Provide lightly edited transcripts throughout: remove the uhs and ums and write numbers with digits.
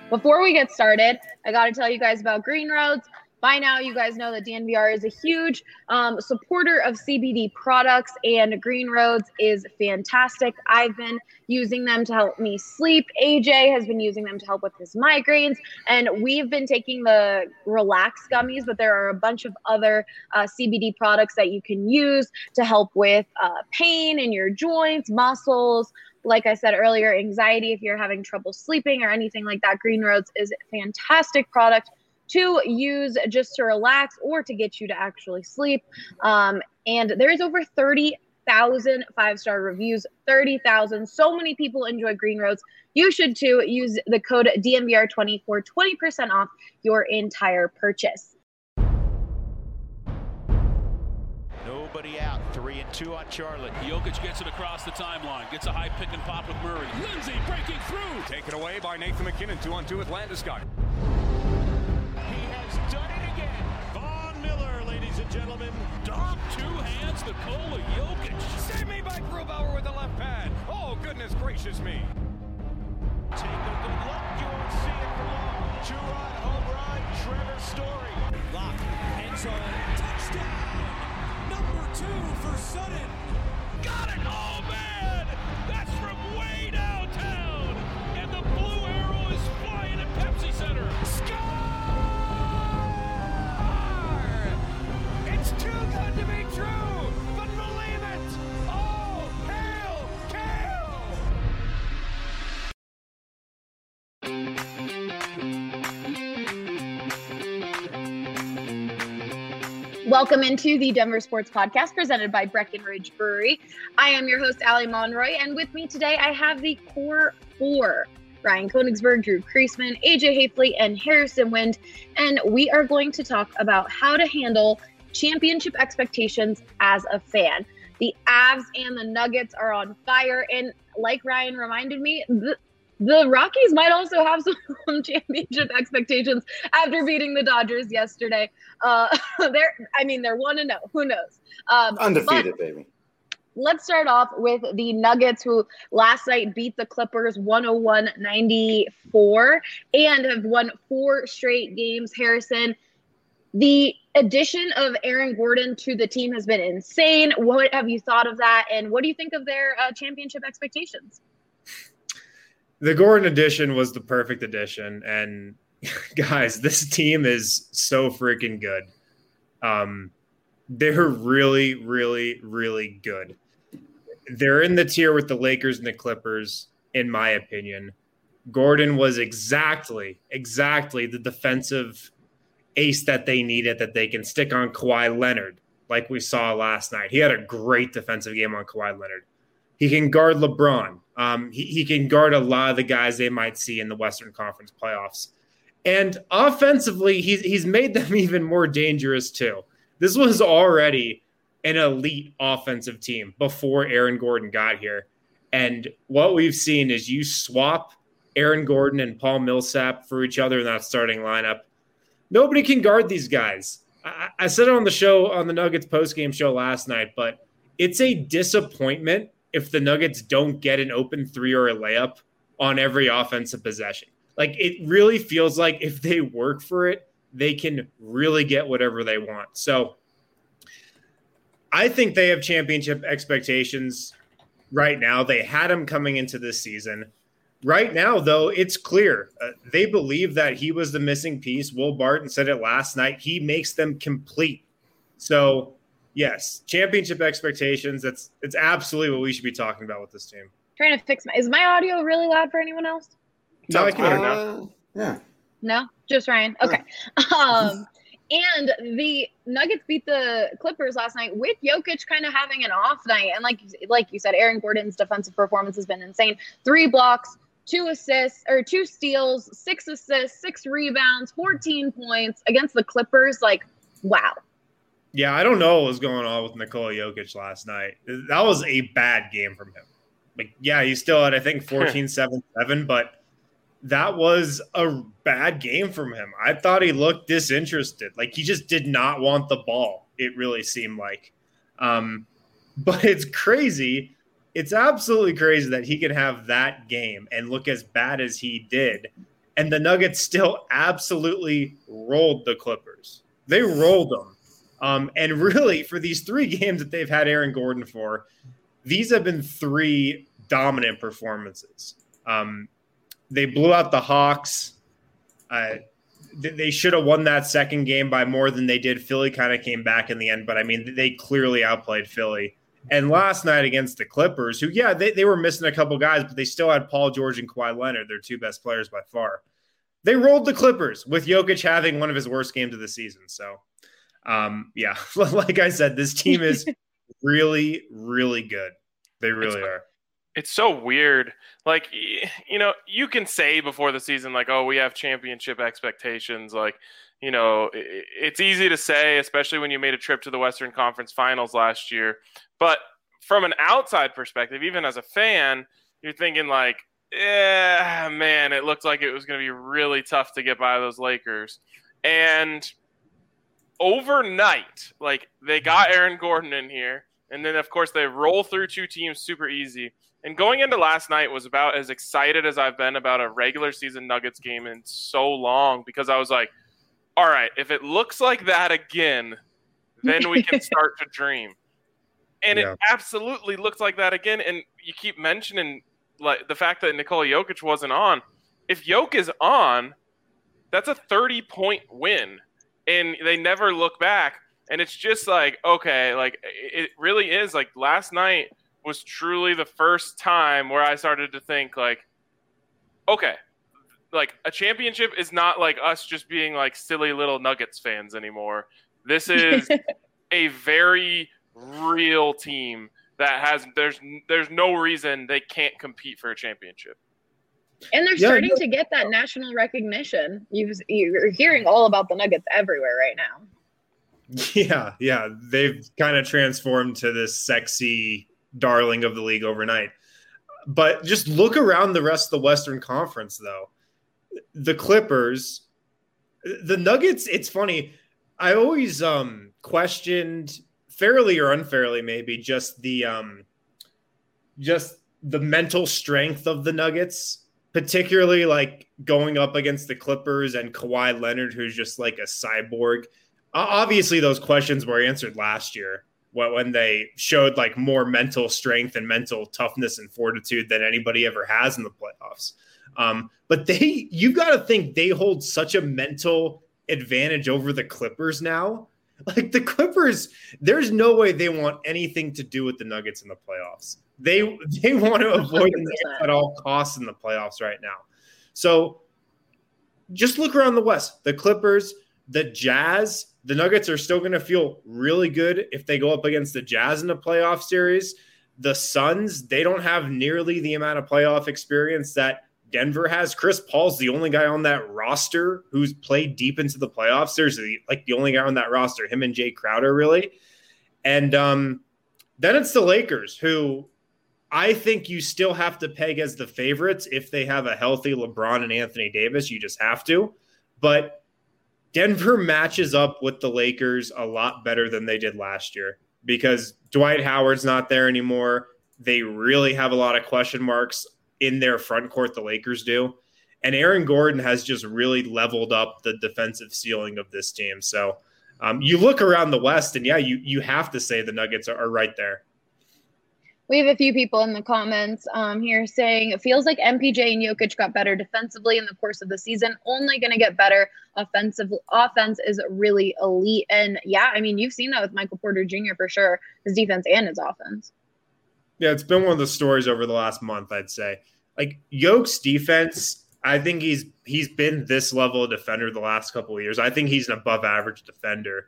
Before we get started, I got to tell you guys about Green Roads. By now, you guys know that DNVR is a huge supporter of CBD products, and Green Roads is fantastic. I've been using them to help me sleep. AJ has been using them to help with his migraines, and we've been taking the Relax gummies, but there are a bunch of other CBD products that you can use to help with pain in your joints, muscles. Like I said earlier, anxiety, if you're having trouble sleeping or anything like that, Green Roads is a fantastic product to use just to relax or to get you to actually sleep. And there's over 30,000 five-star reviews, 30,000. So many people enjoy Green Roads. You should too. Use the code DNVR20 for 20% off your entire purchase. Nobody out. 3-2 on Charlotte. Jokic gets it across the timeline. Gets a high pick and pop with Murray. Lindsay breaking through. Taken away by Nathan McKinnon. 2-on-2 with Landeskog. He has done it again. Von Miller, ladies and gentlemen. Dom, two hands, Nikola Jokic. Save me by Grubauer with the left pad. Oh, goodness gracious me. Take a good look. You won't see it for long. Two-run home run. Trevor Story. Lock. End zone. Touchdown. Number 2 for Sutton. Got it. Oh, man. That's from way downtown. And the blue arrow is flying at Pepsi Center. Score! It's too good to be true, but believe it. Oh, hail, Kale! Welcome into the Denver Sports Podcast presented by Breckenridge Brewery. I am your host, Allie Monroy, and with me today I have the Core 4, Ryan Koenigsberg, Drew Kreisman, AJ Hafley, and Harrison Wind, and we are going to talk about how to handle championship expectations as a fan. The Avs and the Nuggets are on fire, and like Ryan reminded me, the Rockies might also have some championship expectations after beating the Dodgers yesterday. They're 1-0. Who knows? Undefeated, baby. Let's start off with the Nuggets, who last night beat the Clippers 101-94 and have won 4 straight games. Harrison, the addition of Aaron Gordon to the team has been insane. What have you thought of that, and what do you think of their championship expectations? The Gordon addition was the perfect addition, and guys, this team is so freaking good. They're really, really, really good. They're in the tier with the Lakers and the Clippers, in my opinion. Gordon was exactly the defensive ace that they needed, that they can stick on Kawhi Leonard, like we saw last night. He had a great defensive game on Kawhi Leonard. He can guard LeBron. He can guard a lot of the guys they might see in the Western Conference playoffs. And offensively, he's made them even more dangerous too. This was already an elite offensive team before Aaron Gordon got here. And what we've seen is you swap Aaron Gordon and Paul Millsap for each other in that starting lineup. Nobody can guard these guys. I said it on the show, on the Nuggets postgame show last night, but it's a disappointment if the Nuggets don't get an open 3 or a layup on every offensive possession. Like, it really feels like if they work for it, they can really get whatever they want. So I think they have championship expectations right now. They had them coming into this season. Right now, though, it's clear. They believe that he was the missing piece. Will Barton said it last night. He makes them complete. So, yes, championship expectations. It's absolutely what we should be talking about with this team. Trying to fix is my audio really loud for anyone else? No, I can hear it now. Yeah. No, just Ryan. Okay. And the Nuggets beat the Clippers last night with Jokic kind of having an off night. And like you said, Aaron Gordon's defensive performance has been insane. 3 blocks, 2 assists, or 2 steals, 6 assists, 6 rebounds, 14 points against the Clippers. Like, wow. Yeah, I don't know what was going on with Nikola Jokic last night. That was a bad game from him. Like, yeah, he still had, I think, 14-7-7, but that was a bad game from him. I thought he looked disinterested. Like, he just did not want the ball, it really seemed like. But it's crazy. It's absolutely crazy that he could have that game and look as bad as he did And the Nuggets still absolutely rolled the Clippers. They rolled them. And really, for these 3 games that they've had Aaron Gordon for, these have been 3 dominant performances. They blew out the Hawks. They should have won that second game by more than they did. Philly kind of came back in the end, but I mean, they clearly outplayed Philly. And last night against the Clippers, who, yeah, they were missing a couple guys, but they still had Paul George and Kawhi Leonard, their 2 best players by far. They rolled the Clippers with Jokic having one of his worst games of the season. So, yeah, like I said, this team is really, really good. They really are. It's so weird. Like, you know, you can say before the season, like, oh, we have championship expectations. Like, you know, it's easy to say, especially when you made a trip to the Western Conference Finals last year. But from an outside perspective, even as a fan, you're thinking like, man, it looked like it was going to be really tough to get by those Lakers. And overnight, like, they got Aaron Gordon in here. And then, of course, they roll through 2 teams super easy. And going into last night was about as excited as I've been about a regular season Nuggets game in so long, because I was like, all right, if it looks like that again, then we can start to dream. And It absolutely looked like that again. And you keep mentioning like the fact that Nikola Jokic wasn't on. If Jokic is on, that's a 30-point win. And they never look back. And it's just like, okay, like it really is like last night was truly the first time where I started to think like, okay, like a championship is not like us just being like silly little Nuggets fans anymore. This is a very real team that has, there's no reason they can't compete for a championship. And they're starting to get that national recognition. You're hearing all about the Nuggets everywhere right now. Yeah. They've kind of transformed to this sexy darling of the league overnight. But just look around the rest of the Western Conference, though. The Clippers, the Nuggets, it's funny. I always questioned, fairly or unfairly maybe, just the mental strength of the Nuggets, particularly like going up against the Clippers and Kawhi Leonard, who's just like a cyborg. Obviously, those questions were answered last year when they showed like more mental strength and mental toughness and fortitude than anybody ever has in the playoffs. But you've got to think they hold such a mental advantage over the Clippers now. Like the Clippers, there's no way they want anything to do with the Nuggets in the playoffs. They want to avoid them at all costs in the playoffs right now. So just look around the West. The Clippers, the Jazz, the Nuggets are still going to feel really good if they go up against the Jazz in the playoff series. The Suns, they don't have nearly the amount of playoff experience that Denver has. Chris Paul's the only guy on that roster who's played deep into the playoffs. There's like the only guy on that roster, him and Jay Crowder, really. And then it's the Lakers, who I think you still have to peg as the favorites if they have a healthy LeBron and Anthony Davis. You just have to. But Denver matches up with the Lakers a lot better than they did last year because Dwight Howard's not there anymore. They really have a lot of question marks in their front court, the Lakers do. And Aaron Gordon has just really leveled up the defensive ceiling of this team. So you look around the West, and you have to say the Nuggets are right there. We have a few people in the comments here saying it feels like MPJ and Jokic got better defensively in the course of the season, only going to get better offensive. Offense is really elite. And yeah, I mean, you've seen that with Michael Porter Jr. for sure, his defense and his offense. Yeah, it's been one of the stories over the last month, I'd say. Like Jokic's defense, I think he's been this level of defender the last couple of years. I think he's an above average defender.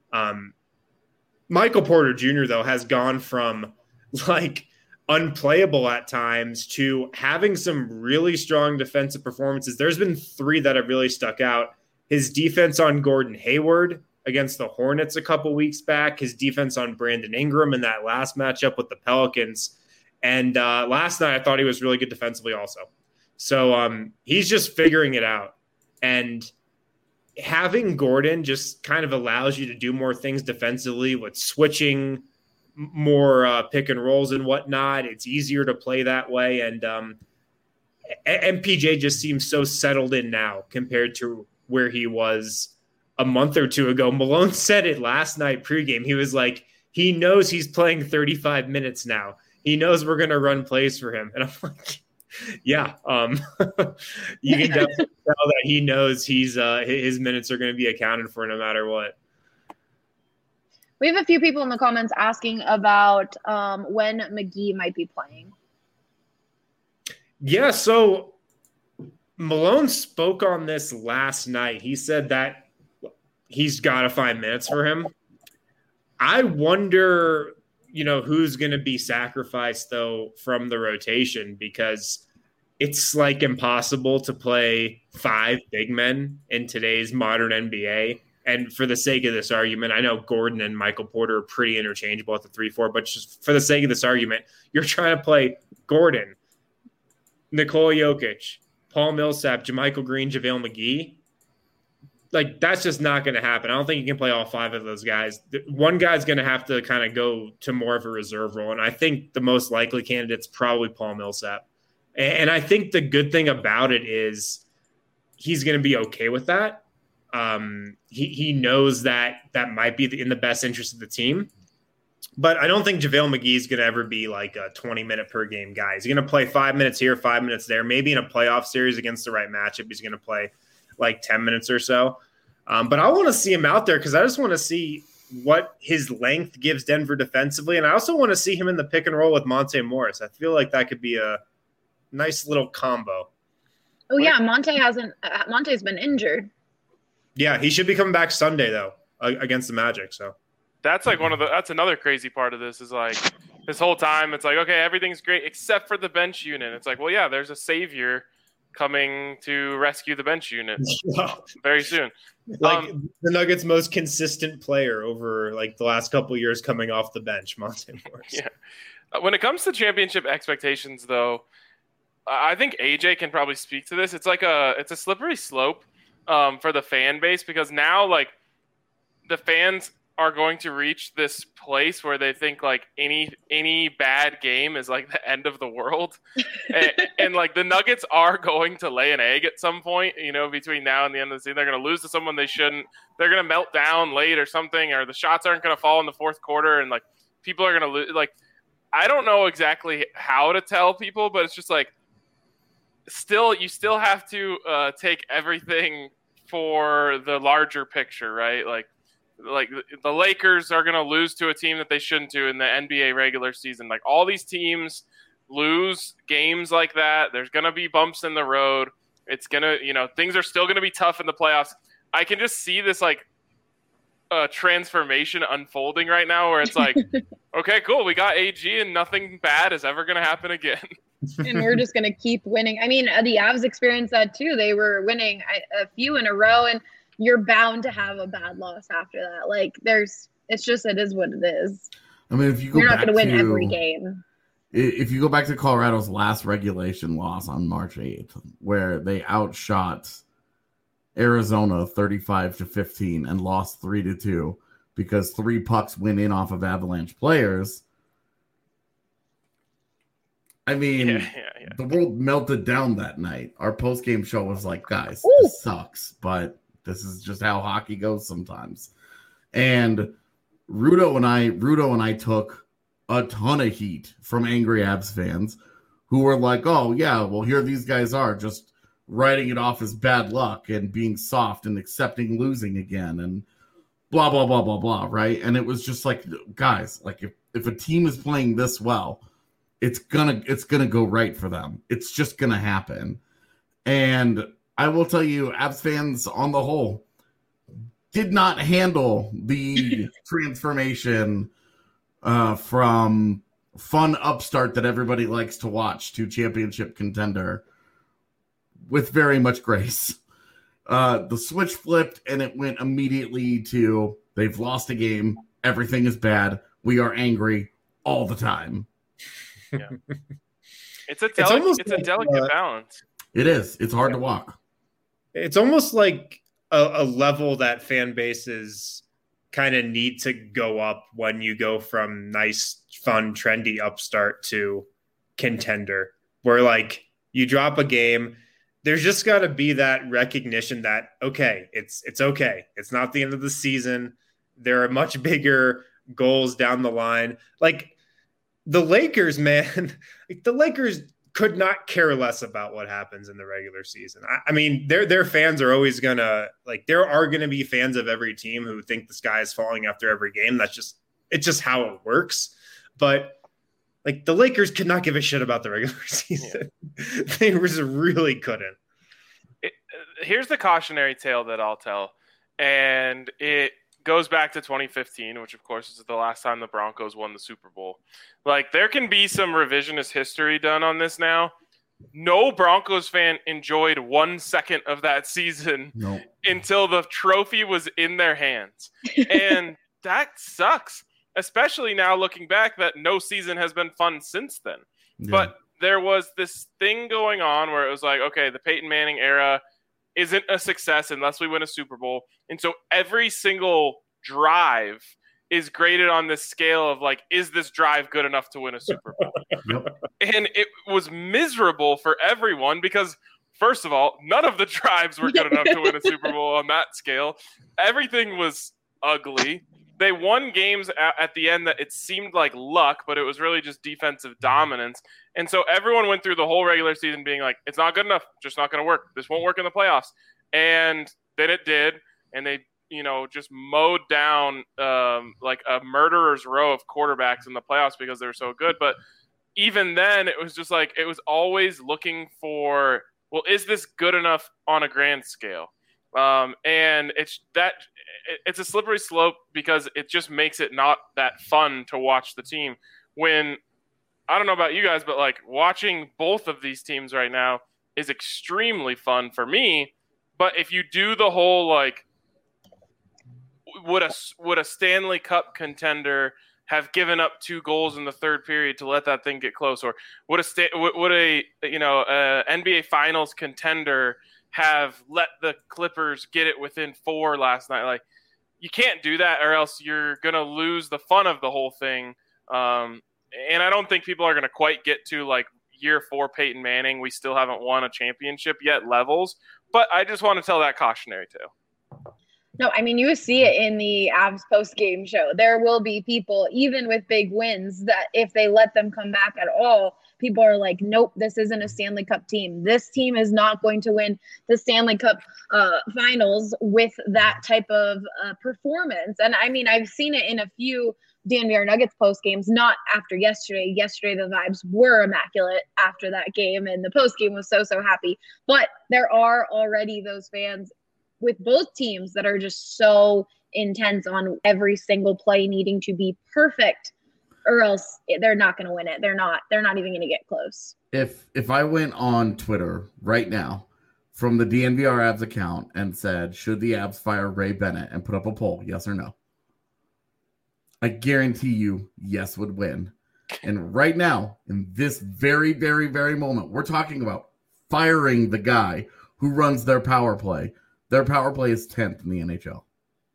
Michael Porter Jr., though, has gone from like unplayable at times to having some really strong defensive performances. There's been 3 that have really stuck out. His defense on Gordon Hayward against the Hornets a couple weeks back, his defense on Brandon Ingram in that last matchup with the Pelicans. And last night I thought he was really good defensively also. So he's just figuring it out. And having Gordon just kind of allows you to do more things defensively with switching, more pick and rolls and whatnot. It's easier to play that way. And MPJ just seems so settled in now compared to where he was a month or two ago. Malone said it last night pregame. He was like, he knows he's playing 35 minutes now. He knows we're going to run plays for him. And I'm like, yeah, you can definitely tell that he knows his minutes are going to be accounted for no matter what. We have a few people in the comments asking about when McGee might be playing. Yeah, so Malone spoke on this last night. He said that he's got to find minutes for him. I wonder, who's going to be sacrificed, though, from the rotation, because it's like impossible to play 5 big men in today's modern NBA. And for the sake of this argument, I know Gordon and Michael Porter are pretty interchangeable at the 3-4, but just for the sake of this argument, you're trying to play Gordon, Nikola Jokic, Paul Millsap, JaMychal Green, JaVale McGee. Like, that's just not going to happen. I don't think you can play all 5 of those guys. One guy's going to have to kind of go to more of a reserve role, and I think the most likely candidate's probably Paul Millsap. And I think the good thing about it is he's going to be okay with that. He knows that might be in the best interest of the team. But I don't think JaVale McGee is going to ever be like a 20-minute per game guy. He's going to play 5 minutes here, 5 minutes there. Maybe in a playoff series against the right matchup, he's going to play like 10 minutes or so. But I want to see him out there because I just want to see what his length gives Denver defensively. And I also want to see him in the pick and roll with Monte Morris. I feel like that could be a nice little combo. Oh, yeah. Monte's been injured. Yeah, he should be coming back Sunday, though, against the Magic. So that's like that's another crazy part of this is like this whole time it's like, okay, everything's great except for the bench unit. It's like, well, yeah, there's a savior coming to rescue the bench unit very soon. Like the Nuggets' most consistent player over like the last couple of years coming off the bench, Monte Morris. Yeah. When it comes to championship expectations, though, I think AJ can probably speak to this. It's a slippery slope for the fan base because now like the fans are going to reach this place where they think like any bad game is like the end of the world. and like the Nuggets are going to lay an egg at some point, between now and the end of the season. They're going to lose to someone they shouldn't. They're going to melt down late or something, or the shots aren't going to fall in the fourth quarter. And like people are going to lose. Like, I don't know exactly how to tell people, but it's just like, you still have to take everything for the larger picture, right? Like the Lakers are going to lose to a team that they shouldn't to in the NBA regular season. Like all these teams lose games like that. There's going to be bumps in the road. It's going to, things are still going to be tough in the playoffs. I can just see this like transformation unfolding right now where it's like, okay, cool. We got AG and nothing bad is ever going to happen again. And we're just going to keep winning. I mean, the Avs experienced that too. They were winning a few in a row, and you're bound to have a bad loss after that. Like it is what it is. I mean, if you go you're not going to win every game. If you go back to Colorado's last regulation loss on March 8th, where they outshot Arizona 35-15 and lost 3-2 because 3 pucks went in off of Avalanche players. I mean, The world melted down that night. Our post-game show was like, guys, this sucks, but this is just how hockey goes sometimes. And Rudo and I took a ton of heat from angry Avs fans who were like, oh, yeah, well, here these guys are just writing it off as bad luck and being soft and accepting losing again and blah, blah, blah, blah, blah, right? And it was just like, guys, like if a team is playing this well, it's gonna go right for them. It's just gonna happen. And I will tell you, Avs fans on the whole did not handle the transformation from fun upstart that everybody likes to watch to championship contender with very much grace. The switch flipped and it went immediately to they've lost a game. Everything is bad. We are angry all the time. Yeah. It's a delicate balance. It is. It's hard to walk. It's almost like a level that fan bases kind of need to go up when you go from nice, fun, trendy upstart to contender, where like you drop a game. There's just got to be that recognition that, okay, it's okay. It's not the end of the season. There are much bigger goals down the line. Like the Lakers, man, the Lakers could not care less about what happens in the regular season. I mean, their fans are always going to, like, there are going to be fans of every team who think the sky is falling after every game. It's just how it works. But like the Lakers could not give a shit about the regular season. Yeah. They just really couldn't. Here's the cautionary tale that I'll tell. And it goes back to 2015, which of course is the last time the Broncos won the Super Bowl. Like there can be some revisionist history done on this now. No Broncos fan enjoyed 1 second of that season until the trophy was in their hands. And that sucks. Especially now looking back that no season has been fun since then. Yeah. But there was this thing going on where it was like, okay, the Peyton Manning era isn't a success unless we win a Super Bowl. And so every single drive is graded on this scale of like, is this drive good enough to win a Super Bowl? And it was miserable for everyone because, first of all, none of the drives were good enough to win a Super Bowl on that scale. Everything was ugly. They won games at the end that it seemed like luck, but it was really just defensive dominance. And so everyone went through the whole regular season being like, it's not good enough. Just not going to work. This won't work in the playoffs. And then it did. And they, just mowed down like a murderer's row of quarterbacks in the playoffs because they were so good. But even then it was just like, it was always looking for, well, is this good enough on a grand scale? And it's a slippery slope because it just makes it not that fun to watch the team when, I don't know about you guys, but like watching both of these teams right now is extremely fun for me. But if you do the whole, like, would a Stanley Cup contender have given up 2 goals in the third period to let that thing get close? Or would a NBA Finals contender have let the Clippers get it within 4 last night? Like, you can't do that or else you're going to lose the fun of the whole thing. And I don't think people are going to quite get to like year 4 Peyton Manning. We still haven't won a championship yet levels, but I just want to tell that cautionary tale. No, I mean, you see it in the Avs post-game show. There will be people, even with big wins, that if they let them come back at all, people are like, nope, this isn't a Stanley Cup team. This team is not going to win the Stanley Cup finals with that type of performance. And I mean, I've seen it in a few DNVR Nuggets post games, not after yesterday. Yesterday, the vibes were immaculate after that game, and the post game was so happy. But there are already those fans with both teams that are just so intense on every single play needing to be perfect, or else they're not going to win it. They're not even going to get close. If I went on Twitter right now from the DNVR Avs account and said, should the Avs fire Ray Bennett, and put up a poll, yes or no, I guarantee you yes would win. And right now, in this very, very, very moment, we're talking about firing the guy who runs their power play. Their power play is 10th in the NHL.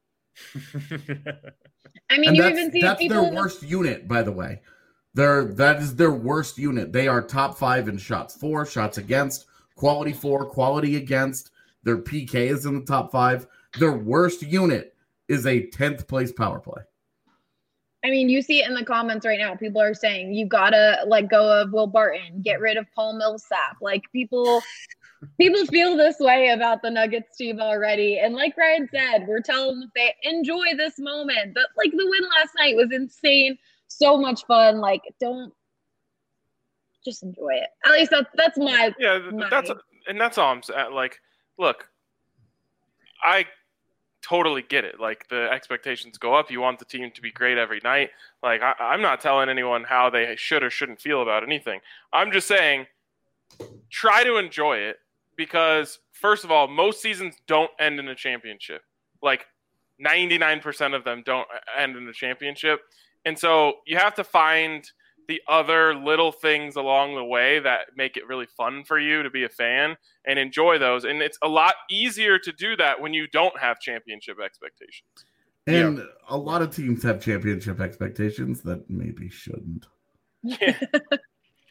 I mean, that's their worst unit, by the way. That is their worst unit. They are top 5 in shots for, shots against, quality for, quality against. Their PK is in the top 5. Their worst unit is a 10th place power play. I mean, you see it in the comments right now. People are saying you gotta let go of Will Barton, get rid of Paul Millsap. Like people feel this way about the Nuggets team already. And like Ryan said, we're telling the fans, enjoy this moment. But like the win last night was insane. So much fun. Like, don't just enjoy it. At least that's my that's all I'm saying. Like, look, I totally get it. Like, the expectations go up. You want the team to be great every night. Like, I'm not telling anyone how they should or shouldn't feel about anything. I'm just saying, try to enjoy it. Because, first of all, most seasons don't end in a championship. Like, 99% of them don't end in a championship. And so you have to find the other little things along the way that make it really fun for you to be a fan and enjoy those. And it's a lot easier to do that when you don't have championship expectations. And a lot of teams have championship expectations that maybe shouldn't. Yeah.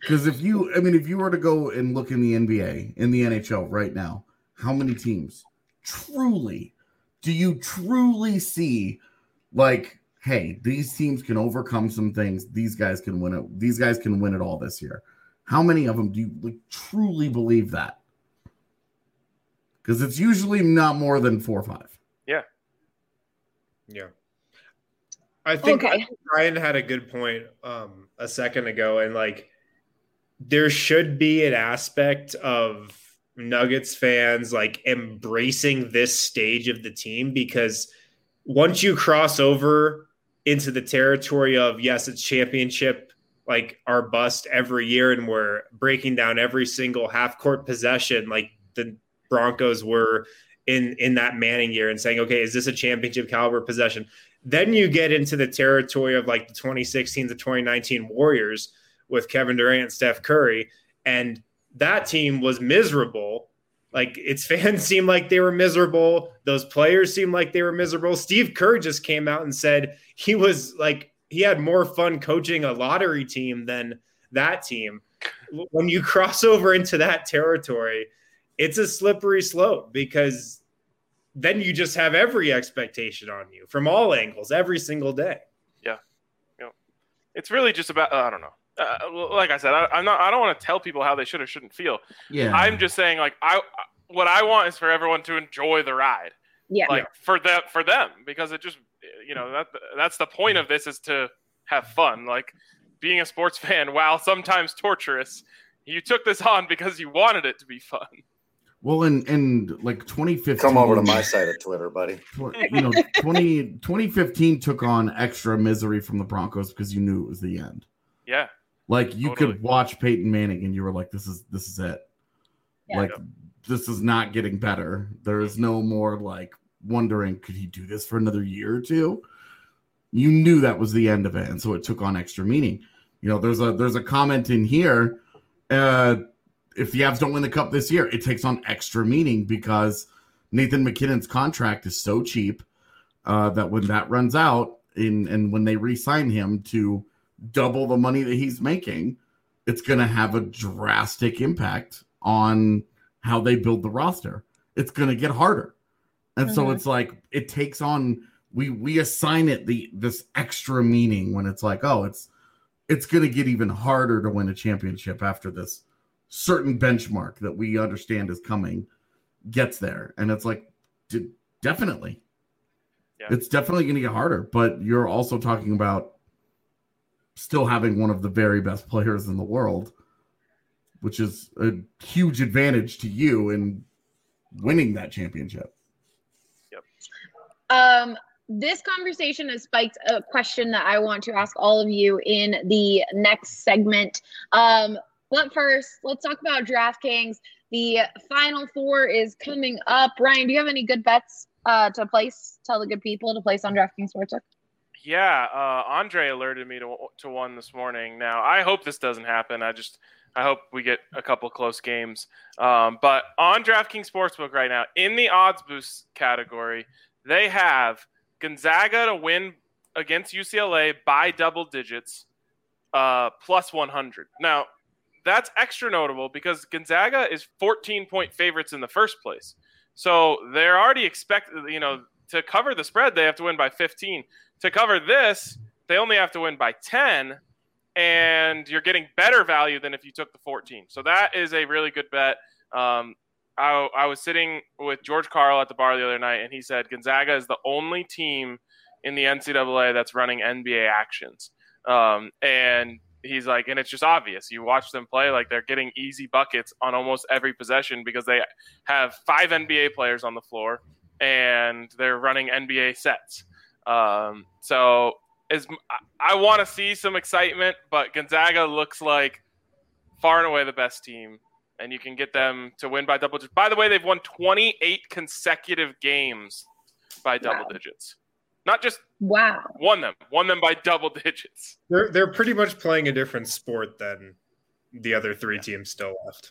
Because if you were to go and look in the NBA, in the NHL right now, how many teams do you truly see like, hey, these teams can overcome some things. These guys can win it. These guys can win it all this year. How many of them do you truly believe that? Because it's usually not more than 4 or 5. Yeah. Yeah. I think Ryan had a good point a second ago, and like there should be an aspect of Nuggets fans like embracing this stage of the team, because once you cross over into the territory of, yes, it's championship, like our bust every year, and we're breaking down every single half court possession like the Broncos were in that Manning year, and saying, okay, is this a championship caliber possession? Then you get into the territory of like the 2016 to 2019 Warriors with Kevin Durant and Steph Curry, and that team was miserable. Like, its fans seemed like they were miserable. Those players seemed like they were miserable. Steve Kerr just came out and said he had more fun coaching a lottery team than that team. When you cross over into that territory, it's a slippery slope, because then you just have every expectation on you from all angles every single day. Yeah. It's really just about, I don't know. Like I said, I don't want to tell people how they should or shouldn't feel. Yeah. I'm just saying, like, what I want is for everyone to enjoy the ride. Yeah. Like, for them, because it just, that's the point of this, is to have fun. Like, being a sports fan, while sometimes torturous, you took this on because you wanted it to be fun. Well, and like 2015. Come over to my side of Twitter, buddy. 2015 took on extra misery from the Broncos because you knew it was the end. Yeah. Like, you could watch Peyton Manning and you were like, this is it. Yeah. Like, this is not getting better. There is no more like wondering, could he do this for another year or two? You knew that was the end of it, and so it took on extra meaning. There's a comment in here. If the Avs don't win the cup this year, it takes on extra meaning because Nathan McKinnon's contract is so cheap that when that runs out and when they re-sign him to double the money that he's making, it's going to have a drastic impact on how they build the roster. It's going to get harder. And so it's like, it takes on, we assign it this extra meaning when it's like, oh, it's going to get even harder to win a championship after this certain benchmark that we understand is coming gets there. And it's like, definitely. Yeah. It's definitely going to get harder, but you're also talking about still having one of the very best players in the world, which is a huge advantage to you in winning that championship. Yep. This conversation has spiked a question that I want to ask all of you in the next segment. But first, let's talk about DraftKings. The Final Four is coming up. Ryan, do you have any good bets to place? Tell the good people to place on DraftKings Sportsbook. Yeah, Andre alerted me to one this morning. Now, I hope this doesn't happen. I hope we get a couple close games. But on DraftKings Sportsbook right now, in the odds boost category, they have Gonzaga to win against UCLA by double digits, plus 100. Now, that's extra notable because Gonzaga is 14-point favorites in the first place. So they're already expected, to cover the spread, they have to win by 15. To cover this, they only have to win by 10, and you're getting better value than if you took the 14. So that is a really good bet. I was sitting with George Karl at the bar the other night, and he said Gonzaga is the only team in the NCAA that's running NBA actions. And he's like, and it's just obvious. You watch them play, like they're getting easy buckets on almost every possession because they have 5 NBA players on the floor and they're running NBA sets. So I want to see some excitement, but Gonzaga looks like far and away the best team, and you can get them to win by double digits. By the way, they've won 28 consecutive games by double digits. Not just won them by double digits. They're pretty much playing a different sport than the other 3 teams still left.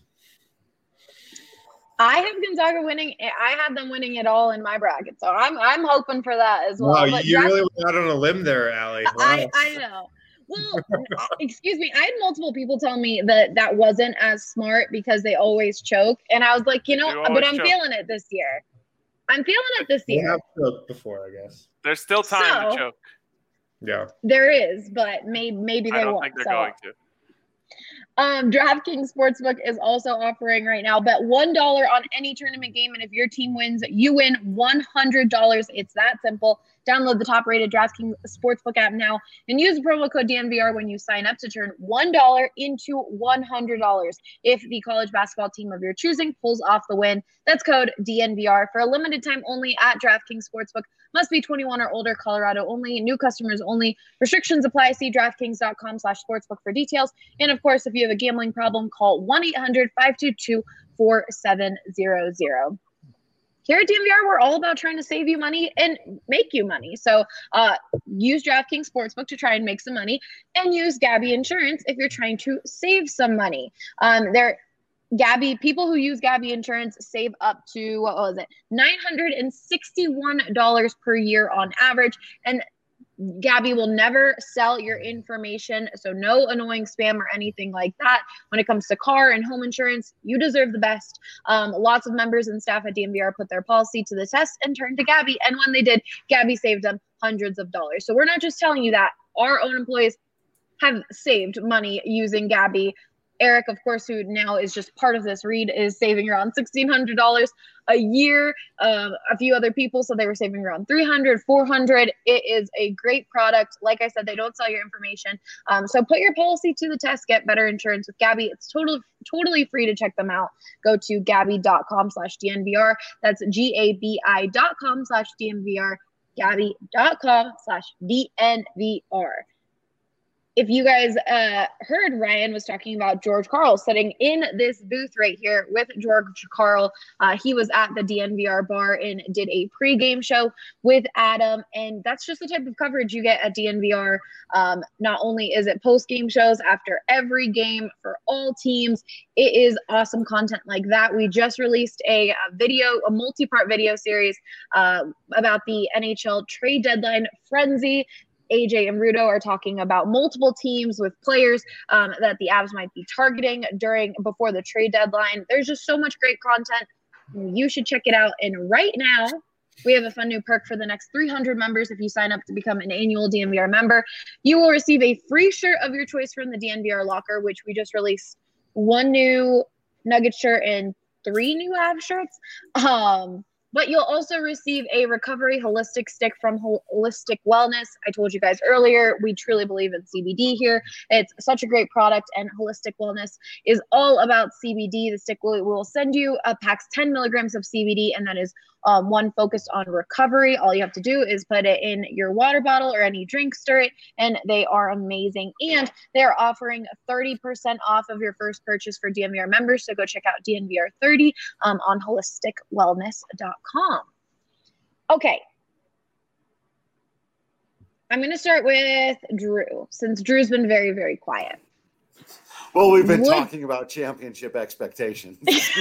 I have Gonzaga winning. I have them winning it all in my bracket, so I'm hoping for that as well. Wow, you really went out on a limb there, Allie. Wow. I know. Well, excuse me. I had multiple people tell me that wasn't as smart because they always choke. And I was like, but I'm feeling it this year. They have choked before, I guess. There's still time to choke. Yeah. There is, but maybe they won't. I don't think they're going to. DraftKings Sportsbook is also offering right now, bet $1 on any tournament game, and if your team wins, you win $100. It's that simple. Download the top-rated DraftKings Sportsbook app now and use the promo code DNVR when you sign up to turn $1 into $100 if the college basketball team of your choosing pulls off the win. That's code DNVR for a limited time only at DraftKings Sportsbook. Must be 21 or older, Colorado only, new customers only. Restrictions apply. See DraftKings.com/sportsbook for details. And, of course, if you have a gambling problem, call 1-800-522-4700. Here at DNVR, we're all about trying to save you money and make you money. So use DraftKings Sportsbook to try and make some money, and use Gabi Insurance if you're trying to save some money. People who use Gabi Insurance save up to, $961 per year on average. And Gabi will never sell your information, so no annoying spam or anything like that. When it comes to car and home insurance, you deserve the best. Lots of members and staff at DNVR put their policy to the test and turned to Gabi, and when they did, Gabi saved them hundreds of dollars. So we're not just telling you that. Our own employees have saved money using Gabi. Eric, of course, who now is just part of this read, is saving around $1,600 a year. A few other people, so they were saving around $300, $400. It is a great product. Like I said, they don't sell your information. So put your policy to the test. Get better insurance with Gabi. It's totally free to check them out. Go to Gabi.com/DNVR. That's GABI.com/DNVR. Gabi.com/DNVR. If you guys heard, Ryan was talking about George Karl sitting in this booth right here with George Karl. He was at the DNVR bar and did a pregame show with Adam. And that's just the type of coverage you get at DNVR. Not only is it postgame shows after every game for all teams, it is awesome content like that. We just released a multi-part video series about the NHL trade deadline frenzy. AJ and Rudo are talking about multiple teams with players that the Avs might be targeting before the trade deadline. There's just so much great content. You should check it out. And right now, we have a fun new perk for the next 300 members. If you sign up to become an annual DNVR member, you will receive a free shirt of your choice from the DNVR locker, which we just released 1 new Nugget shirt and 3 new Avs shirts. But you'll also receive a recovery holistic stick from Holistic Wellness. I told you guys earlier, we truly believe in CBD here. It's such a great product, and Holistic Wellness is all about CBD. The stick will send you packs 10 milligrams of CBD, and that is one focused on recovery. All you have to do is put it in your water bottle or any drink, stir it, and they are amazing. And they're offering 30% off of your first purchase for DNVR members. So go check out DNVR 30 on holisticwellness.com. Okay. I'm going to start with Drew, since Drew's been very, very quiet. Well, we've been talking about championship expectations.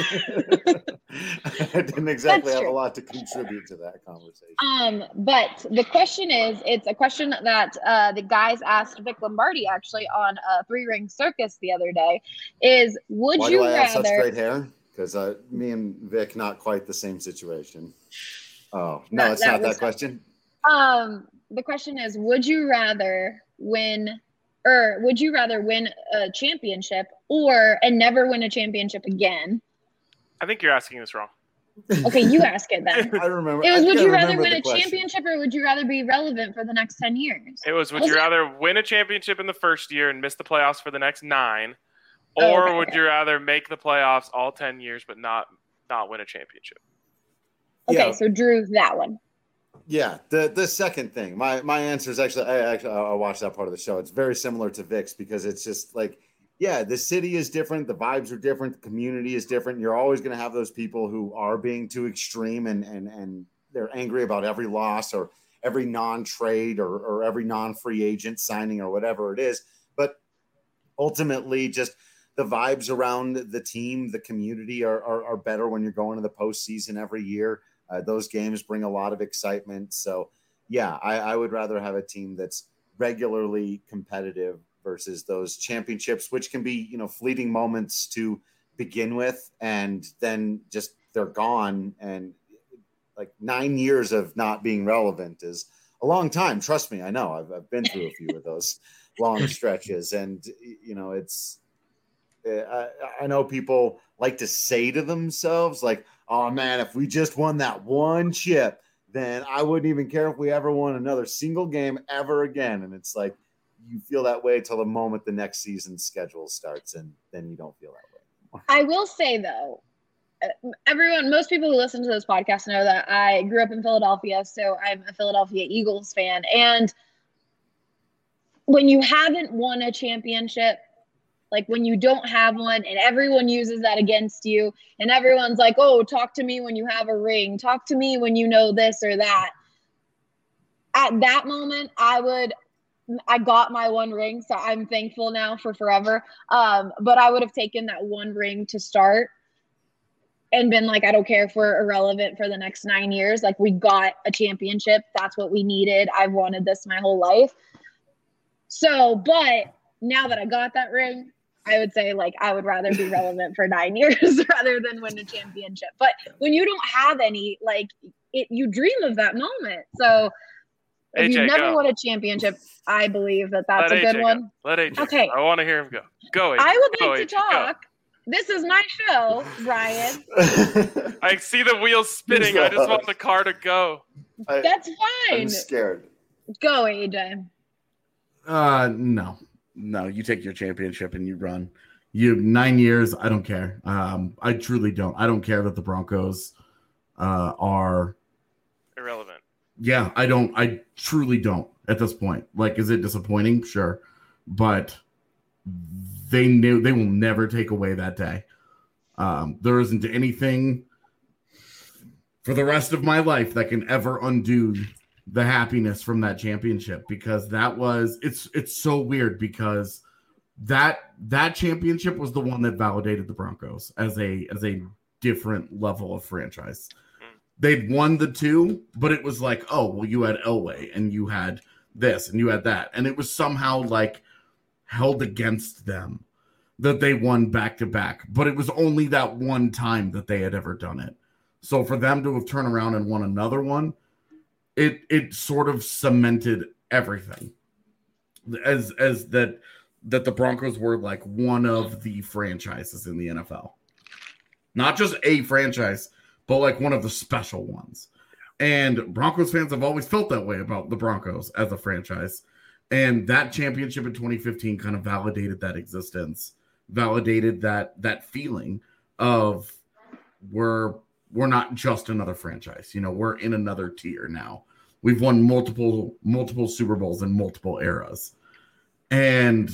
I didn't exactly have a lot to contribute to that conversation. But the question is, it's a question that the guys asked Vic Lombardi actually on Three Ring Circus the other day, is would Why you do I rather have such great hair? Because me and Vic, not quite the same situation. Oh, no, it's not that question. The question is, would you rather win a championship and never win a championship again? I think you're asking this wrong. Okay, you ask it then. I remember. It was, would you rather win a championship or would you rather be relevant for the next 10 years? It was, would you rather win a championship in the first year and miss the playoffs for the next 9? Or would you rather make the playoffs all 10 years but not win a championship? Okay, so Drew, that one. Yeah, the second thing. My answer is actually I watched that part of the show. It's very similar to Vic's because it's just like, yeah, the city is different, the vibes are different, the community is different. You're always going to have those people who are being too extreme and they're angry about every loss or every non-trade or every non-free agent signing or whatever it is. But ultimately, just the vibes around the team, the community are better when you're going to the postseason every year. Those games bring a lot of excitement. So, yeah, I would rather have a team that's regularly competitive versus those championships, which can be, fleeting moments to begin with, and then just they're gone. And like 9 years of not being relevant is a long time. Trust me, I know. I've been through a few of those long stretches, and it's. I know people like to say to themselves, like, "Oh man, if we just won that one chip, then I wouldn't even care if we ever won another single game ever again." And it's like you feel that way till the moment the next season's schedule starts, and then you don't feel that way anymore. I will say though, most people who listen to this podcast know that I grew up in Philadelphia, so I'm a Philadelphia Eagles fan. And when you haven't won a championship, like when you don't have one and everyone uses that against you and everyone's like, oh, talk to me when you have a ring. Talk to me when you know this or that. At that moment, I got my one ring, so I'm thankful now for forever. But I would have taken that one ring to start and been like, I don't care if we're irrelevant for the next 9 years. Like, we got a championship. That's what we needed. I've wanted this my whole life. So, but now that I got that ring, I would say, like, I would rather be relevant for 9 years rather than win a championship. But when you don't have any, like, you dream of that moment. So if you've never won a championship, I believe that's a good one. Let AJ okay. go. I want to hear him go. Go, AJ. I would like to talk. Go. This is my show, Brian. I see the wheels spinning. I just want the car to go. That's fine. I'm scared. Go, AJ. No, you take your championship and you run. You 9 years, I don't care. I truly don't. I don't care that the Broncos are irrelevant. Yeah, I truly don't at this point. Like, is it disappointing? Sure. But they will never take away that day. There isn't anything for the rest of my life that can ever undo the happiness from that championship, because it's so weird, because that championship was the one that validated the Broncos as a different level of franchise. They'd won the two, but it was like, oh, well, you had Elway and you had this and you had that, and it was somehow like held against them that they won back to back, but it was only that one time that they had ever done it. So for them to have turned around and won another one, it sort of cemented everything as that the Broncos were like one of the franchises in the NFL. Not just a franchise, but like one of the special ones. And Broncos fans have always felt that way about the Broncos as a franchise. And that championship in 2015 kind of validated that existence, validated that feeling of we're not just another franchise. We're in another tier now. We've won multiple Super Bowls in multiple eras. And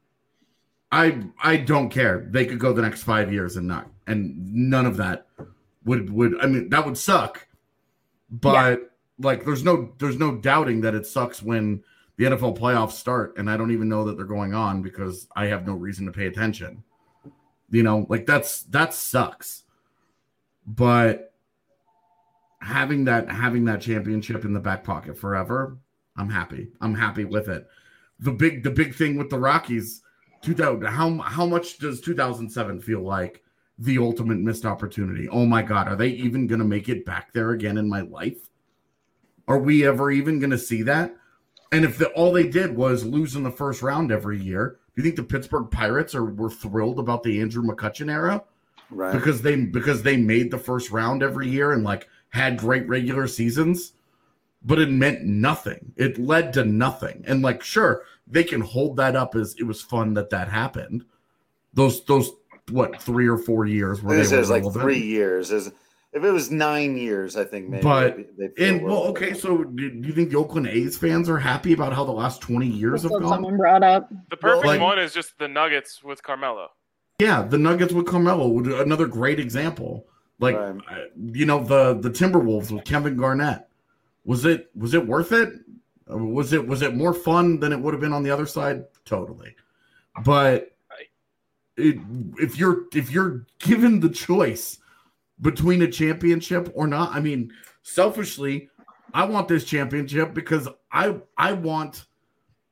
I don't care. They could go the next 5 years and none of that would I mean, that would suck. But like there's no doubting that it sucks when the NFL playoffs start and I don't even know that they're going on because I have no reason to pay attention. Like that sucks. But having that championship in the back pocket forever, I'm happy. I'm happy with it. The big thing with the Rockies, how much does 2007 feel like the ultimate missed opportunity? Oh my God, are they even going to make it back there again in my life? Are we ever even going to see that? And if all they did was lose in the first round every year, do you think the Pittsburgh Pirates were thrilled about the Andrew McCutchen era? Right. Because they made the first round every year and like had great regular seasons, but it meant nothing. It led to nothing. And like, sure, they can hold that up as it was fun that happened. Those what 3 or 4 years where this is like 3 years. If it was 9 years, I think maybe. But okay. So do you think the Oakland A's fans are happy about how the last 20 years have gone? Someone brought up the perfect one is just the Nuggets with Carmelo. Yeah, the Nuggets with Carmelo, another great example. Like, the Timberwolves with Kevin Garnett. Was it worth it? Was it more fun than it would have been on the other side? Totally. But if you're given the choice between a championship or not, I mean, selfishly, I want this championship because I want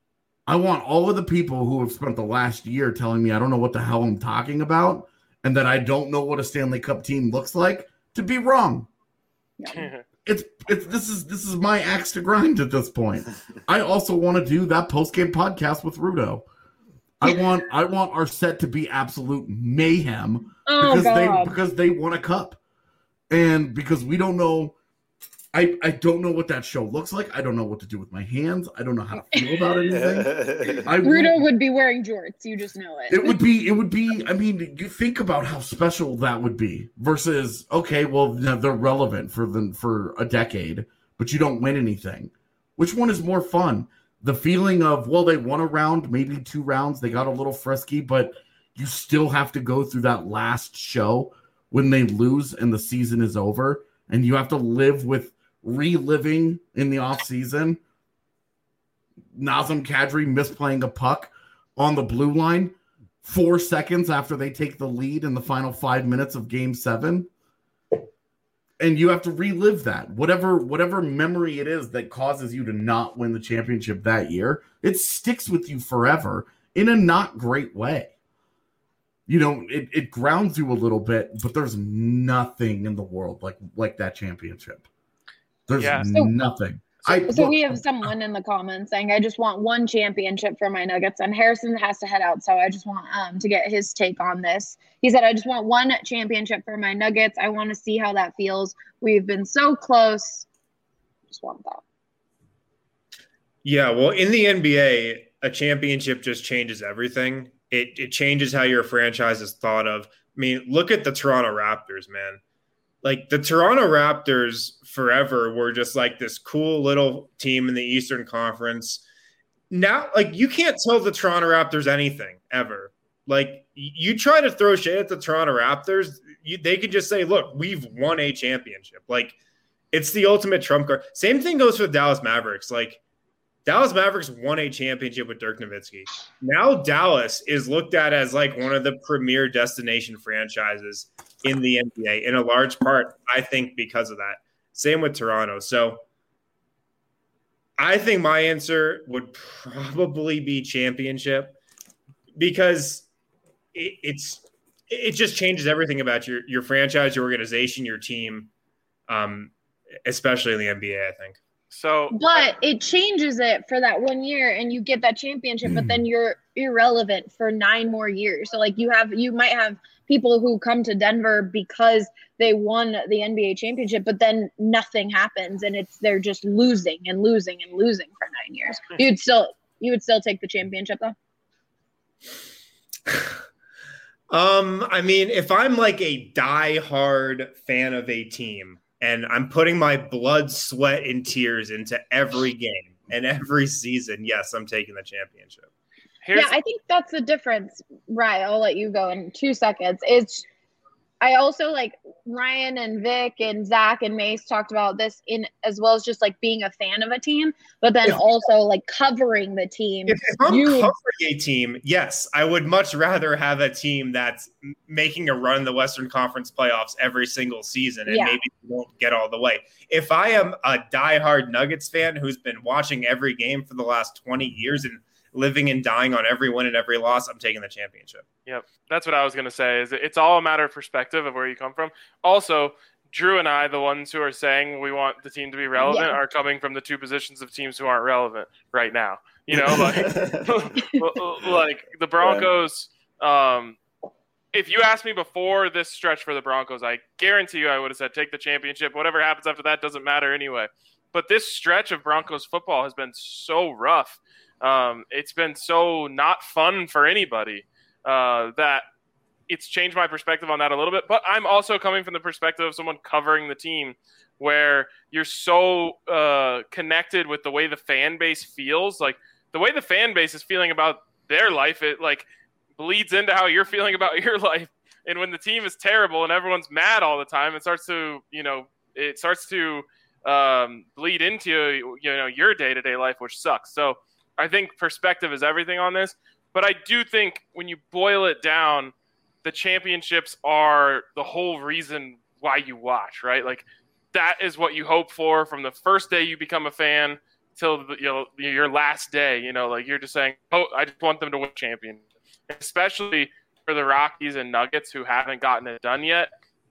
I want all of the people who have spent the last year telling me I don't know what the hell I'm talking about and that I don't know what a Stanley Cup team looks like to be wrong. This is my axe to grind at this point. I also want to do that post-game podcast with Rudo. I want our set to be absolute mayhem because they won a cup. And because we don't know, I don't know what that show looks like. I don't know what to do with my hands. I don't know how to feel about anything. Rudo would be wearing jorts. You just know it. It would be. I mean, you think about how special that would be versus, okay, well, they're relevant for a decade, but you don't win anything. Which one is more fun? The feeling of, well, they won a round, maybe 2 rounds. They got a little frisky, but you still have to go through that last show when they lose and the season is over, and you have to live with reliving in the offseason Nazem Kadri misplaying a puck on the blue line 4 seconds after they take the lead in the final 5 minutes of Game 7. And you have to relive that. Whatever memory it is that causes you to not win the championship that year, it sticks with you forever in a not great way. You know, it grounds you a little bit, but there's nothing in the world like that championship. There's nothing. So we have someone in the comments saying, I just want 1 championship for my Nuggets, and Harrison has to head out, so I just want to get his take on this. He said, I just want 1 championship for my Nuggets. I want to see how that feels. We've been so close. Just want that. Yeah, well, in the NBA, a championship just changes everything. It changes how your franchise is thought of. I mean, look at the Toronto Raptors, man. Like, the Toronto Raptors forever were just like this cool little team in the Eastern Conference. Now, like, you can't tell the Toronto Raptors anything ever. Like, you try to throw shade at the Toronto Raptors, they could just say, look, we've won a championship. Like, it's the ultimate trump card. Same thing goes for the Dallas Mavericks. Like, Dallas Mavericks won a championship with Dirk Nowitzki. Now Dallas is looked at as like one of the premier destination franchises in the NBA, in a large part, I think, because of that. Same with Toronto. So I think my answer would probably be championship, because it just changes everything about your franchise, your organization, your team, especially in the NBA, I think. But it changes it for that 1 year, and you get that championship, but then you're irrelevant for 9 more years. So like you might have people who come to Denver because they won the NBA championship, but then nothing happens, and they're just losing and losing and losing for 9 years. You would still take the championship though? I mean, if I'm like a diehard fan of a team, and I'm putting my blood, sweat, and tears into every game and every season, yes, I'm taking the championship. I think that's the difference. Right, I'll let you go in 2 seconds. I also like Ryan and Vic and Zach and Mace talked about this in as well as just like being a fan of a team, but then also like covering the team. If I'm covering a team, yes, I would much rather have a team that's making a run in the Western Conference playoffs every single season and maybe won't get all the way. If I am a diehard Nuggets fan who's been watching every game for the last 20 years and living and dying on every win and every loss, I'm taking the championship. Yep. That's what I was going to say, is it's all a matter of perspective of where you come from. Also, Drew and I, the ones who are saying we want the team to be relevant, are coming from the 2 positions of teams who aren't relevant right now. You know, like the Broncos, if you asked me before this stretch for the Broncos, I guarantee you I would have said take the championship. Whatever happens after that doesn't matter anyway. But this stretch of Broncos football has been so rough. It's been so not fun for anybody that it's changed my perspective on that a little bit. But I'm also coming from the perspective of someone covering the team, where you're so connected with the way the fan base feels. Like the way the fan base is feeling about their life, it like bleeds into how you're feeling about your life. And when the team is terrible and everyone's mad all the time, it starts to bleed into your day-to-day life, which sucks. So I think perspective is everything on this, but I do think when you boil it down, the championships are the whole reason why you watch, right? Like that is what you hope for from the first day you become a fan till your last day. Like you're just saying, oh, I just want them to win champion, especially for the Rockies and Nuggets who haven't gotten it done yet.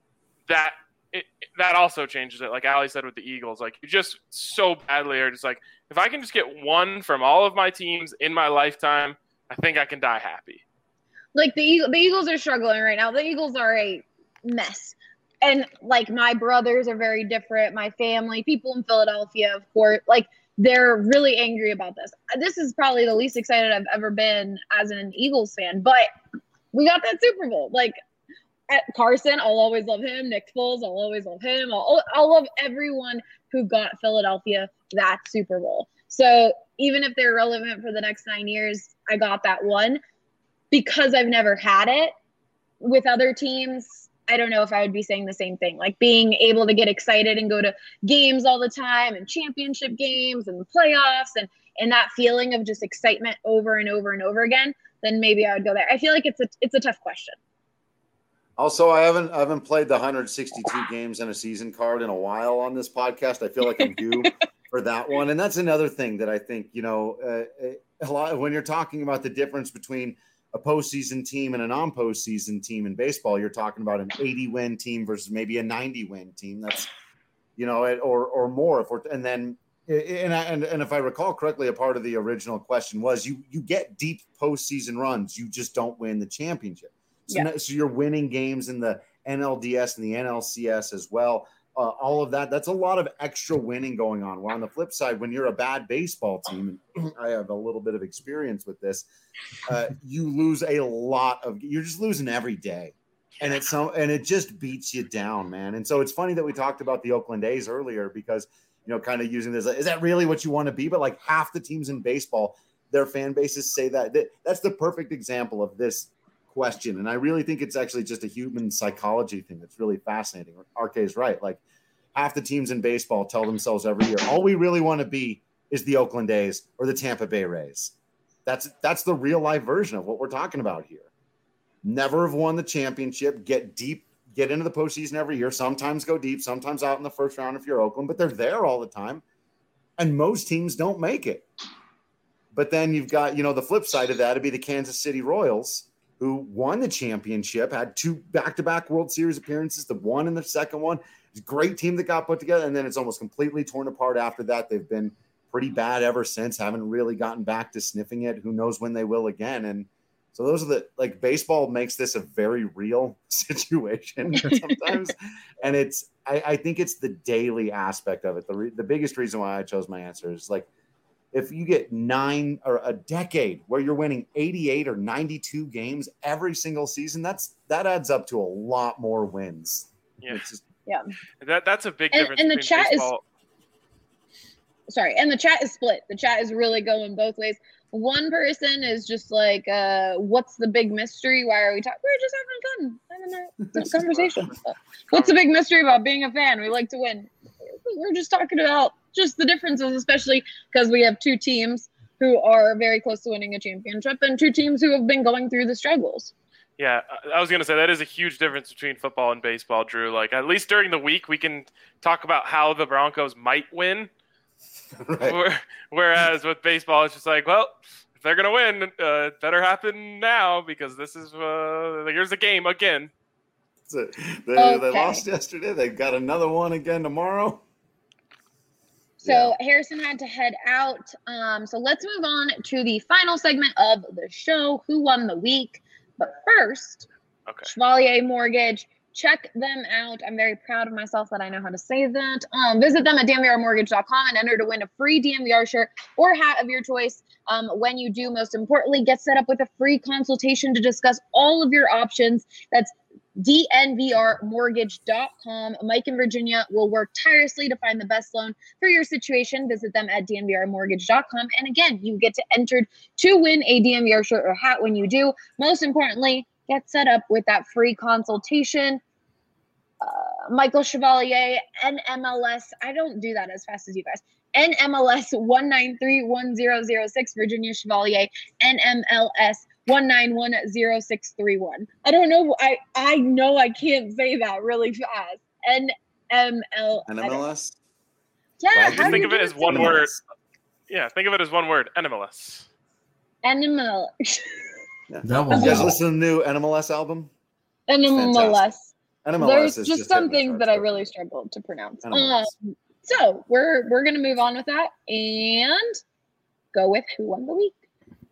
That also changes it. Like Ali said with the Eagles, like you just so badly are just like, if I can just get one from all of my teams in my lifetime, I think I can die happy. Like the Eagles are struggling right now. The Eagles are a mess. And like my brothers are very different. My family, people in Philadelphia, of course, like they're really angry about this. This is probably the least excited I've ever been as an Eagles fan, but we got that Super Bowl. Like Carson, I'll always love him. Nick Foles, I'll always love him. I'll love everyone who got Philadelphia that Super Bowl. So even if they're relevant for the next 9 years, I got that one. Because I've never had it with other teams, I don't know if I would be saying the same thing. Like being able to get excited and go to games all the time and championship games and playoffs and that feeling of just excitement over and over and over again, then maybe I would go there. I feel like it's a tough question. Also, I haven't played the 162 games in a season card in a while on this podcast. I feel like I'm due for that one. And that's another thing that I think, a lot when you're talking about the difference between a postseason team and a non-postseason team in baseball, you're talking about an 80-win team versus maybe a 90-win team. That's, or more. And if I recall correctly, a part of the original question was you get deep postseason runs, you just don't win the championship. So you're winning games in the NLDS and the NLCS as well. All of that's a lot of extra winning going on. Well, on the flip side, when you're a bad baseball team, and I have a little bit of experience with this, you lose you're just losing every day. And it just beats you down, man. And so it's funny that we talked about the Oakland A's earlier because, kind of using this, is that really what you want to be? But like half the teams in baseball, their fan bases say that's the perfect example of this question. And I really think it's actually just a human psychology thing that's really fascinating. RK is right. Like half the teams in baseball tell themselves every year, all we really want to be is the Oakland A's or the Tampa Bay Rays. That's the real life version of what we're talking about here. Never have won the championship, get deep, get into the postseason every year, sometimes go deep, sometimes out in the first round if you're Oakland, but they're there all the time. And most teams don't make it. But then you've got, the flip side of that would be the Kansas City Royals, who won the championship, had 2 back-to-back World Series appearances, the one and the second one. It's a great team that got put together, and then it's almost completely torn apart after that. They've been pretty bad ever since, haven't really gotten back to sniffing it. Who knows when they will again. And so those are baseball makes this a very real situation sometimes. And I think it's the daily aspect of it. The biggest reason why I chose my answer is like, if you get 9 or a decade where you're winning 88 or 92 games every single season, that adds up to a lot more wins. Yeah. Yeah. That's a big difference. And the chat and the chat is split. The chat is really going both ways. One person is just like, what's the big mystery? Why are we talking? We're just having a conversation. What's the big mystery about being a fan? We like to win. We're just talking about just the differences, especially because we have 2 teams who are very close to winning a championship and 2 teams who have been going through the struggles. Yeah, I was going to say that is a huge difference between football and baseball, Drew. Like, at least during the week, we can talk about how the Broncos might win. Right. Whereas with baseball, it's just like, well, if they're going to win, it better happen now because this is here's the game again. They lost yesterday. They've got another one again tomorrow. So Harrison had to head out. So let's move on to the final segment of the show, Who Won the Week. But first, Chevalier Mortgage, check them out. I'm very proud of myself that I know how to say that. Visit them at DMVRmortgage.com and enter to win a free DMVR shirt or hat of your choice. When you do, most importantly, get set up with a free consultation to discuss all of your options. That's DNVRmortgage.com. Mike and Virginia will work tirelessly to find the best loan for your situation. Visit them at DNVRmortgage.com. And again, you get to enter to win a DNVR shirt or hat when you do. Most importantly, get set up with that free consultation. Michael Chevalier, NMLS. I don't do that as fast as you guys. NMLS 1931006. Virginia Chevalier, NMLS 1910631. I don't know. I know I can't say that really fast. NMLS. NMLS? Yeah. Just think of it as one word. Yeah, think of it as one word, NMLS. Animal. Yeah. That You was guys listen to the new NMLS album? NMLS. NMLS There's is just some hitting the things charts that I right really now. struggled to pronounce. NMLS. So we're gonna move on with that and go with who won the week.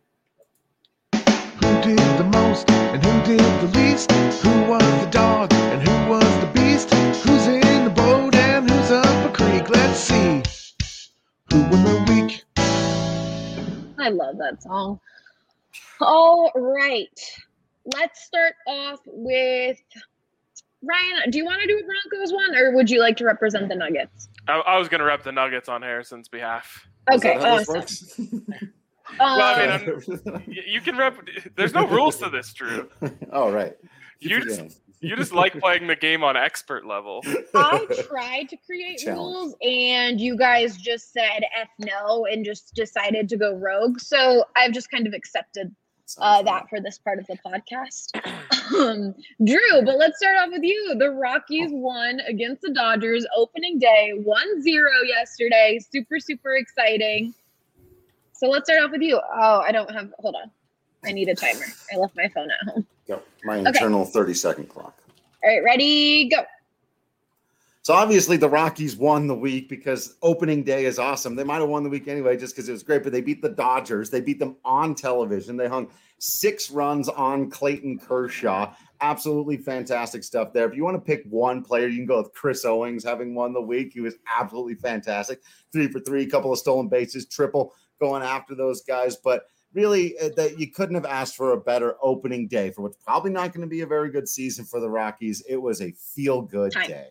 Who did the most and who did the least? Who was the dog and who was the beast? Who's in the boat and who's up a creek? Let's see. Who won the week? I love that song. All right. Let's start off with Ryan. Do you want to do a Broncos one, or would you like to represent the Nuggets? I was going to rep the Nuggets on Harrison's behalf. Okay, Is that how this awesome. works? Well, I mean, you can rep. There's no rules to this, Drew. Oh, right. You just like playing the game on expert level. I tried to create rules, and you guys just said F no and just decided to go rogue. So I've just kind of accepted that for this part of the podcast. Drew, but let's start off with you. The Rockies won against the Dodgers opening day, 1-0 yesterday. Super, super exciting. So let's start off with you. Oh, I don't have, hold on. I need a timer. I left my phone at home. Go. My internal 30-second clock. All right, ready, go. So obviously the Rockies won the week because opening day is awesome. They might have won the week anyway just because it was great, but they beat the Dodgers. They beat them on television. They hung 6 runs on Clayton Kershaw. Absolutely fantastic stuff there. If you want to pick one player, you can go with Chris Owings having won the week. He was absolutely fantastic. 3 for 3, couple of stolen bases, triple going after those guys. But really, that you couldn't have asked for a better opening day for what's probably not going to be a very good season for the Rockies. It was a feel-good day.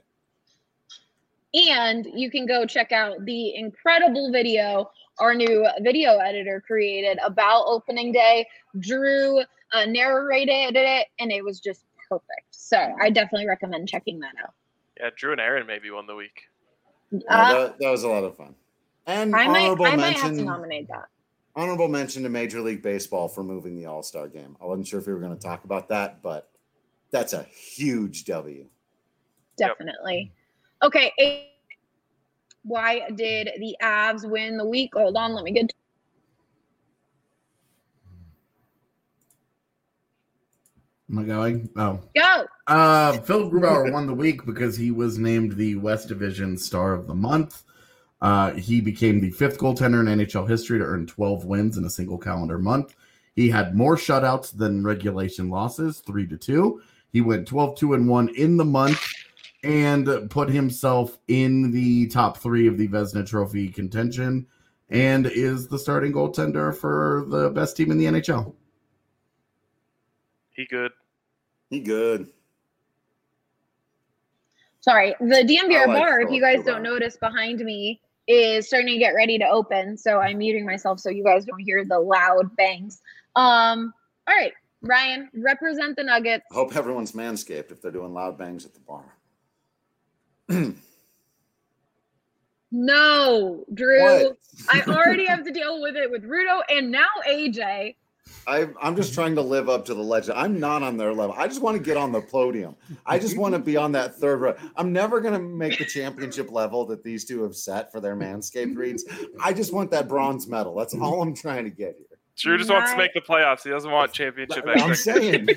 And you can go check out the incredible video our new video editor created about opening day. Drew narrated it, and it was just perfect. So I definitely recommend checking that out. Yeah, Drew and Aaron maybe won the week. That was a lot of fun. And I might have to nominate that. Honorable mention to Major League Baseball for moving the All-Star game. I wasn't sure if we were going to talk about that, but that's a huge W. Definitely. Okay. Why did the Avs win the week? Hold on, let me get. Am I going? Oh. Go. Phil Grubauer won the week because he was named the West Division Star of the Month. He became the 5th goaltender in NHL history to earn 12 wins in a single calendar month. He had more shutouts than regulation losses, 3-2. He went 12-2-1 in the month and put himself in the top 3 of the Vezina Trophy contention and is the starting goaltender for the best team in the NHL. He good. Sorry, the DNVR bar, if Phil you guys Grubauer. don't notice behind me, is starting to get ready to open. So I'm muting myself so you guys don't hear the loud bangs. All right, Ryan, represent the Nuggets. I hope everyone's manscaped if they're doing loud bangs at the bar. No, Drew. What? I already have to deal with it with Rudo and now AJ. I'm just trying to live up to the legend. I'm not on their level. I just want to get on the podium. I just want to be on that third row. I'm never going to make the championship level that these two have set for their Manscaped reads. I just want that bronze medal. That's all I'm trying to get here. Drew just wants to make the playoffs. He doesn't want championship. I'm saying.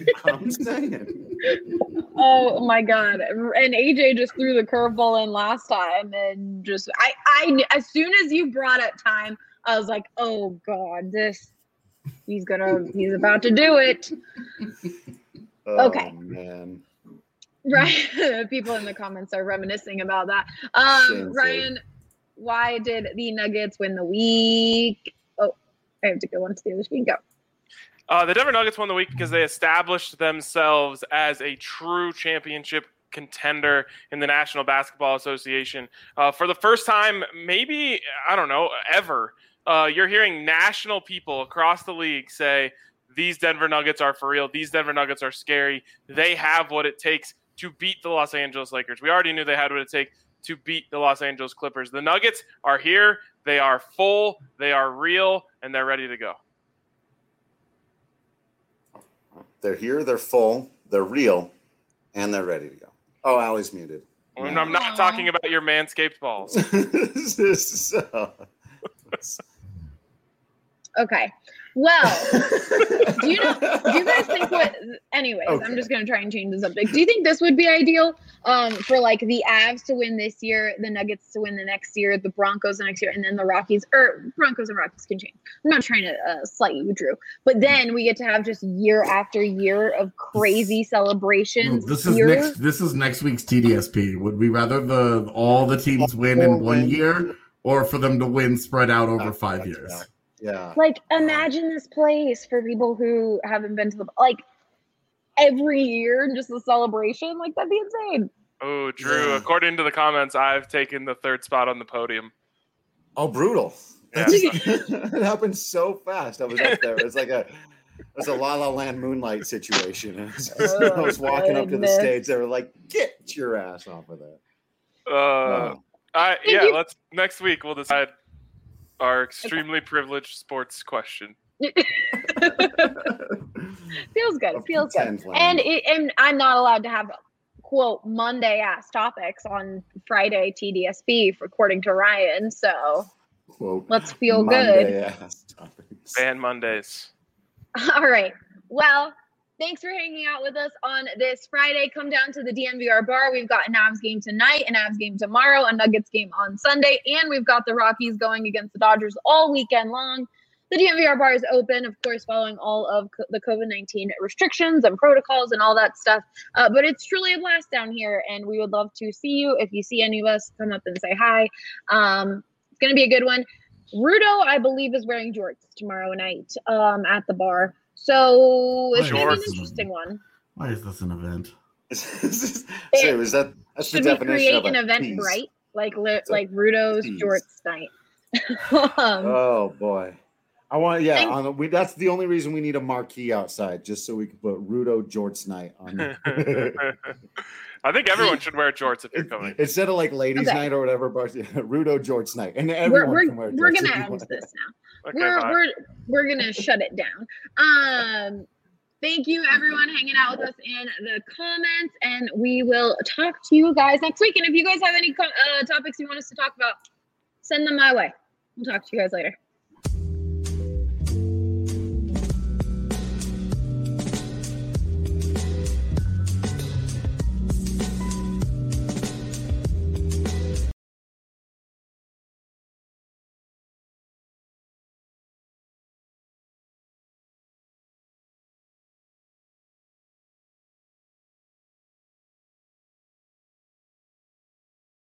Oh my God. And AJ just threw the curveball in last time. And just, I as soon as you brought up time, I was like, oh God, he's about to do it. Oh, okay. Man. Right. People in the comments are reminiscing about that. Ryan, why did the Nuggets win the week? Oh, I have to go on to the other screen. Go. The Denver Nuggets won the week because they established themselves as a true championship contender in the National Basketball Association. For the first time, maybe, I don't know, ever, you're hearing national people across the league say, these Denver Nuggets are for real. These Denver Nuggets are scary. They have what it takes to beat the Los Angeles Lakers. We already knew they had what it takes to beat the Los Angeles Clippers. The Nuggets are here. They are full. They are real, and they're ready to go. They're here. They're full. They're real, and they're ready to go. Oh, Allie's muted. And I'm not talking about your Manscaped balls. Okay. Well, do you guys think anyways, okay. I'm just going to try and change the subject. Do you think this would be ideal for like the Avs to win this year, the Nuggets to win the next year, the Broncos the next year, and then the Rockies, or Broncos and Rockies can change. I'm not trying to slight you, Drew, but then we get to have just year after year of crazy celebrations. This is next week's TDSP. Would we rather all the teams win in 1 year, or for them to win spread out over 5 years? Yeah. Like, imagine this place for people who haven't been to every year, just the celebration. Like, that'd be insane. Oh, Drew, according to the comments, I've taken the third spot on the podium. Oh, brutal. Yeah. It happened so fast. I was up there. It's a La La Land Moonlight situation. I was walking up to the stage. They were like, get your ass off of that. Let's next week we'll decide our extremely privileged sports question. Feels good. And I'm not allowed to have quote Monday ass topics on Friday TDSP according to Ryan. So quote, let's feel good. Ban Mondays. All right. Well, thanks for hanging out with us on this Friday. Come down to the DNVR bar. We've got an Avs game tonight, an Avs game tomorrow, a Nuggets game on Sunday, and we've got the Rockies going against the Dodgers all weekend long. The DNVR bar is open, of course, following all of the COVID-19 restrictions and protocols and all that stuff. But it's truly a blast down here, and we would love to see you. If you see any of us, come up and say hi. It's going to be a good one. Rudo, I believe, is wearing jorts tomorrow night at the bar. So it's going to be an interesting one. Why is this an event? That's should we create an event bright like Rudo's jorts night? Oh boy, I want that's the only reason we need a marquee outside, just so we can put Rudo jorts night on there. I think everyone should wear jorts if you're coming. Instead of like ladies' night or whatever, but Rudo jorts night, and everyone can wear jorts. We're gonna end this now. Okay, we're gonna shut it down. Thank you everyone hanging out with us in the comments, and we will talk to you guys next week. And if you guys have any topics you want us to talk about, send them my way. We'll talk to you guys later.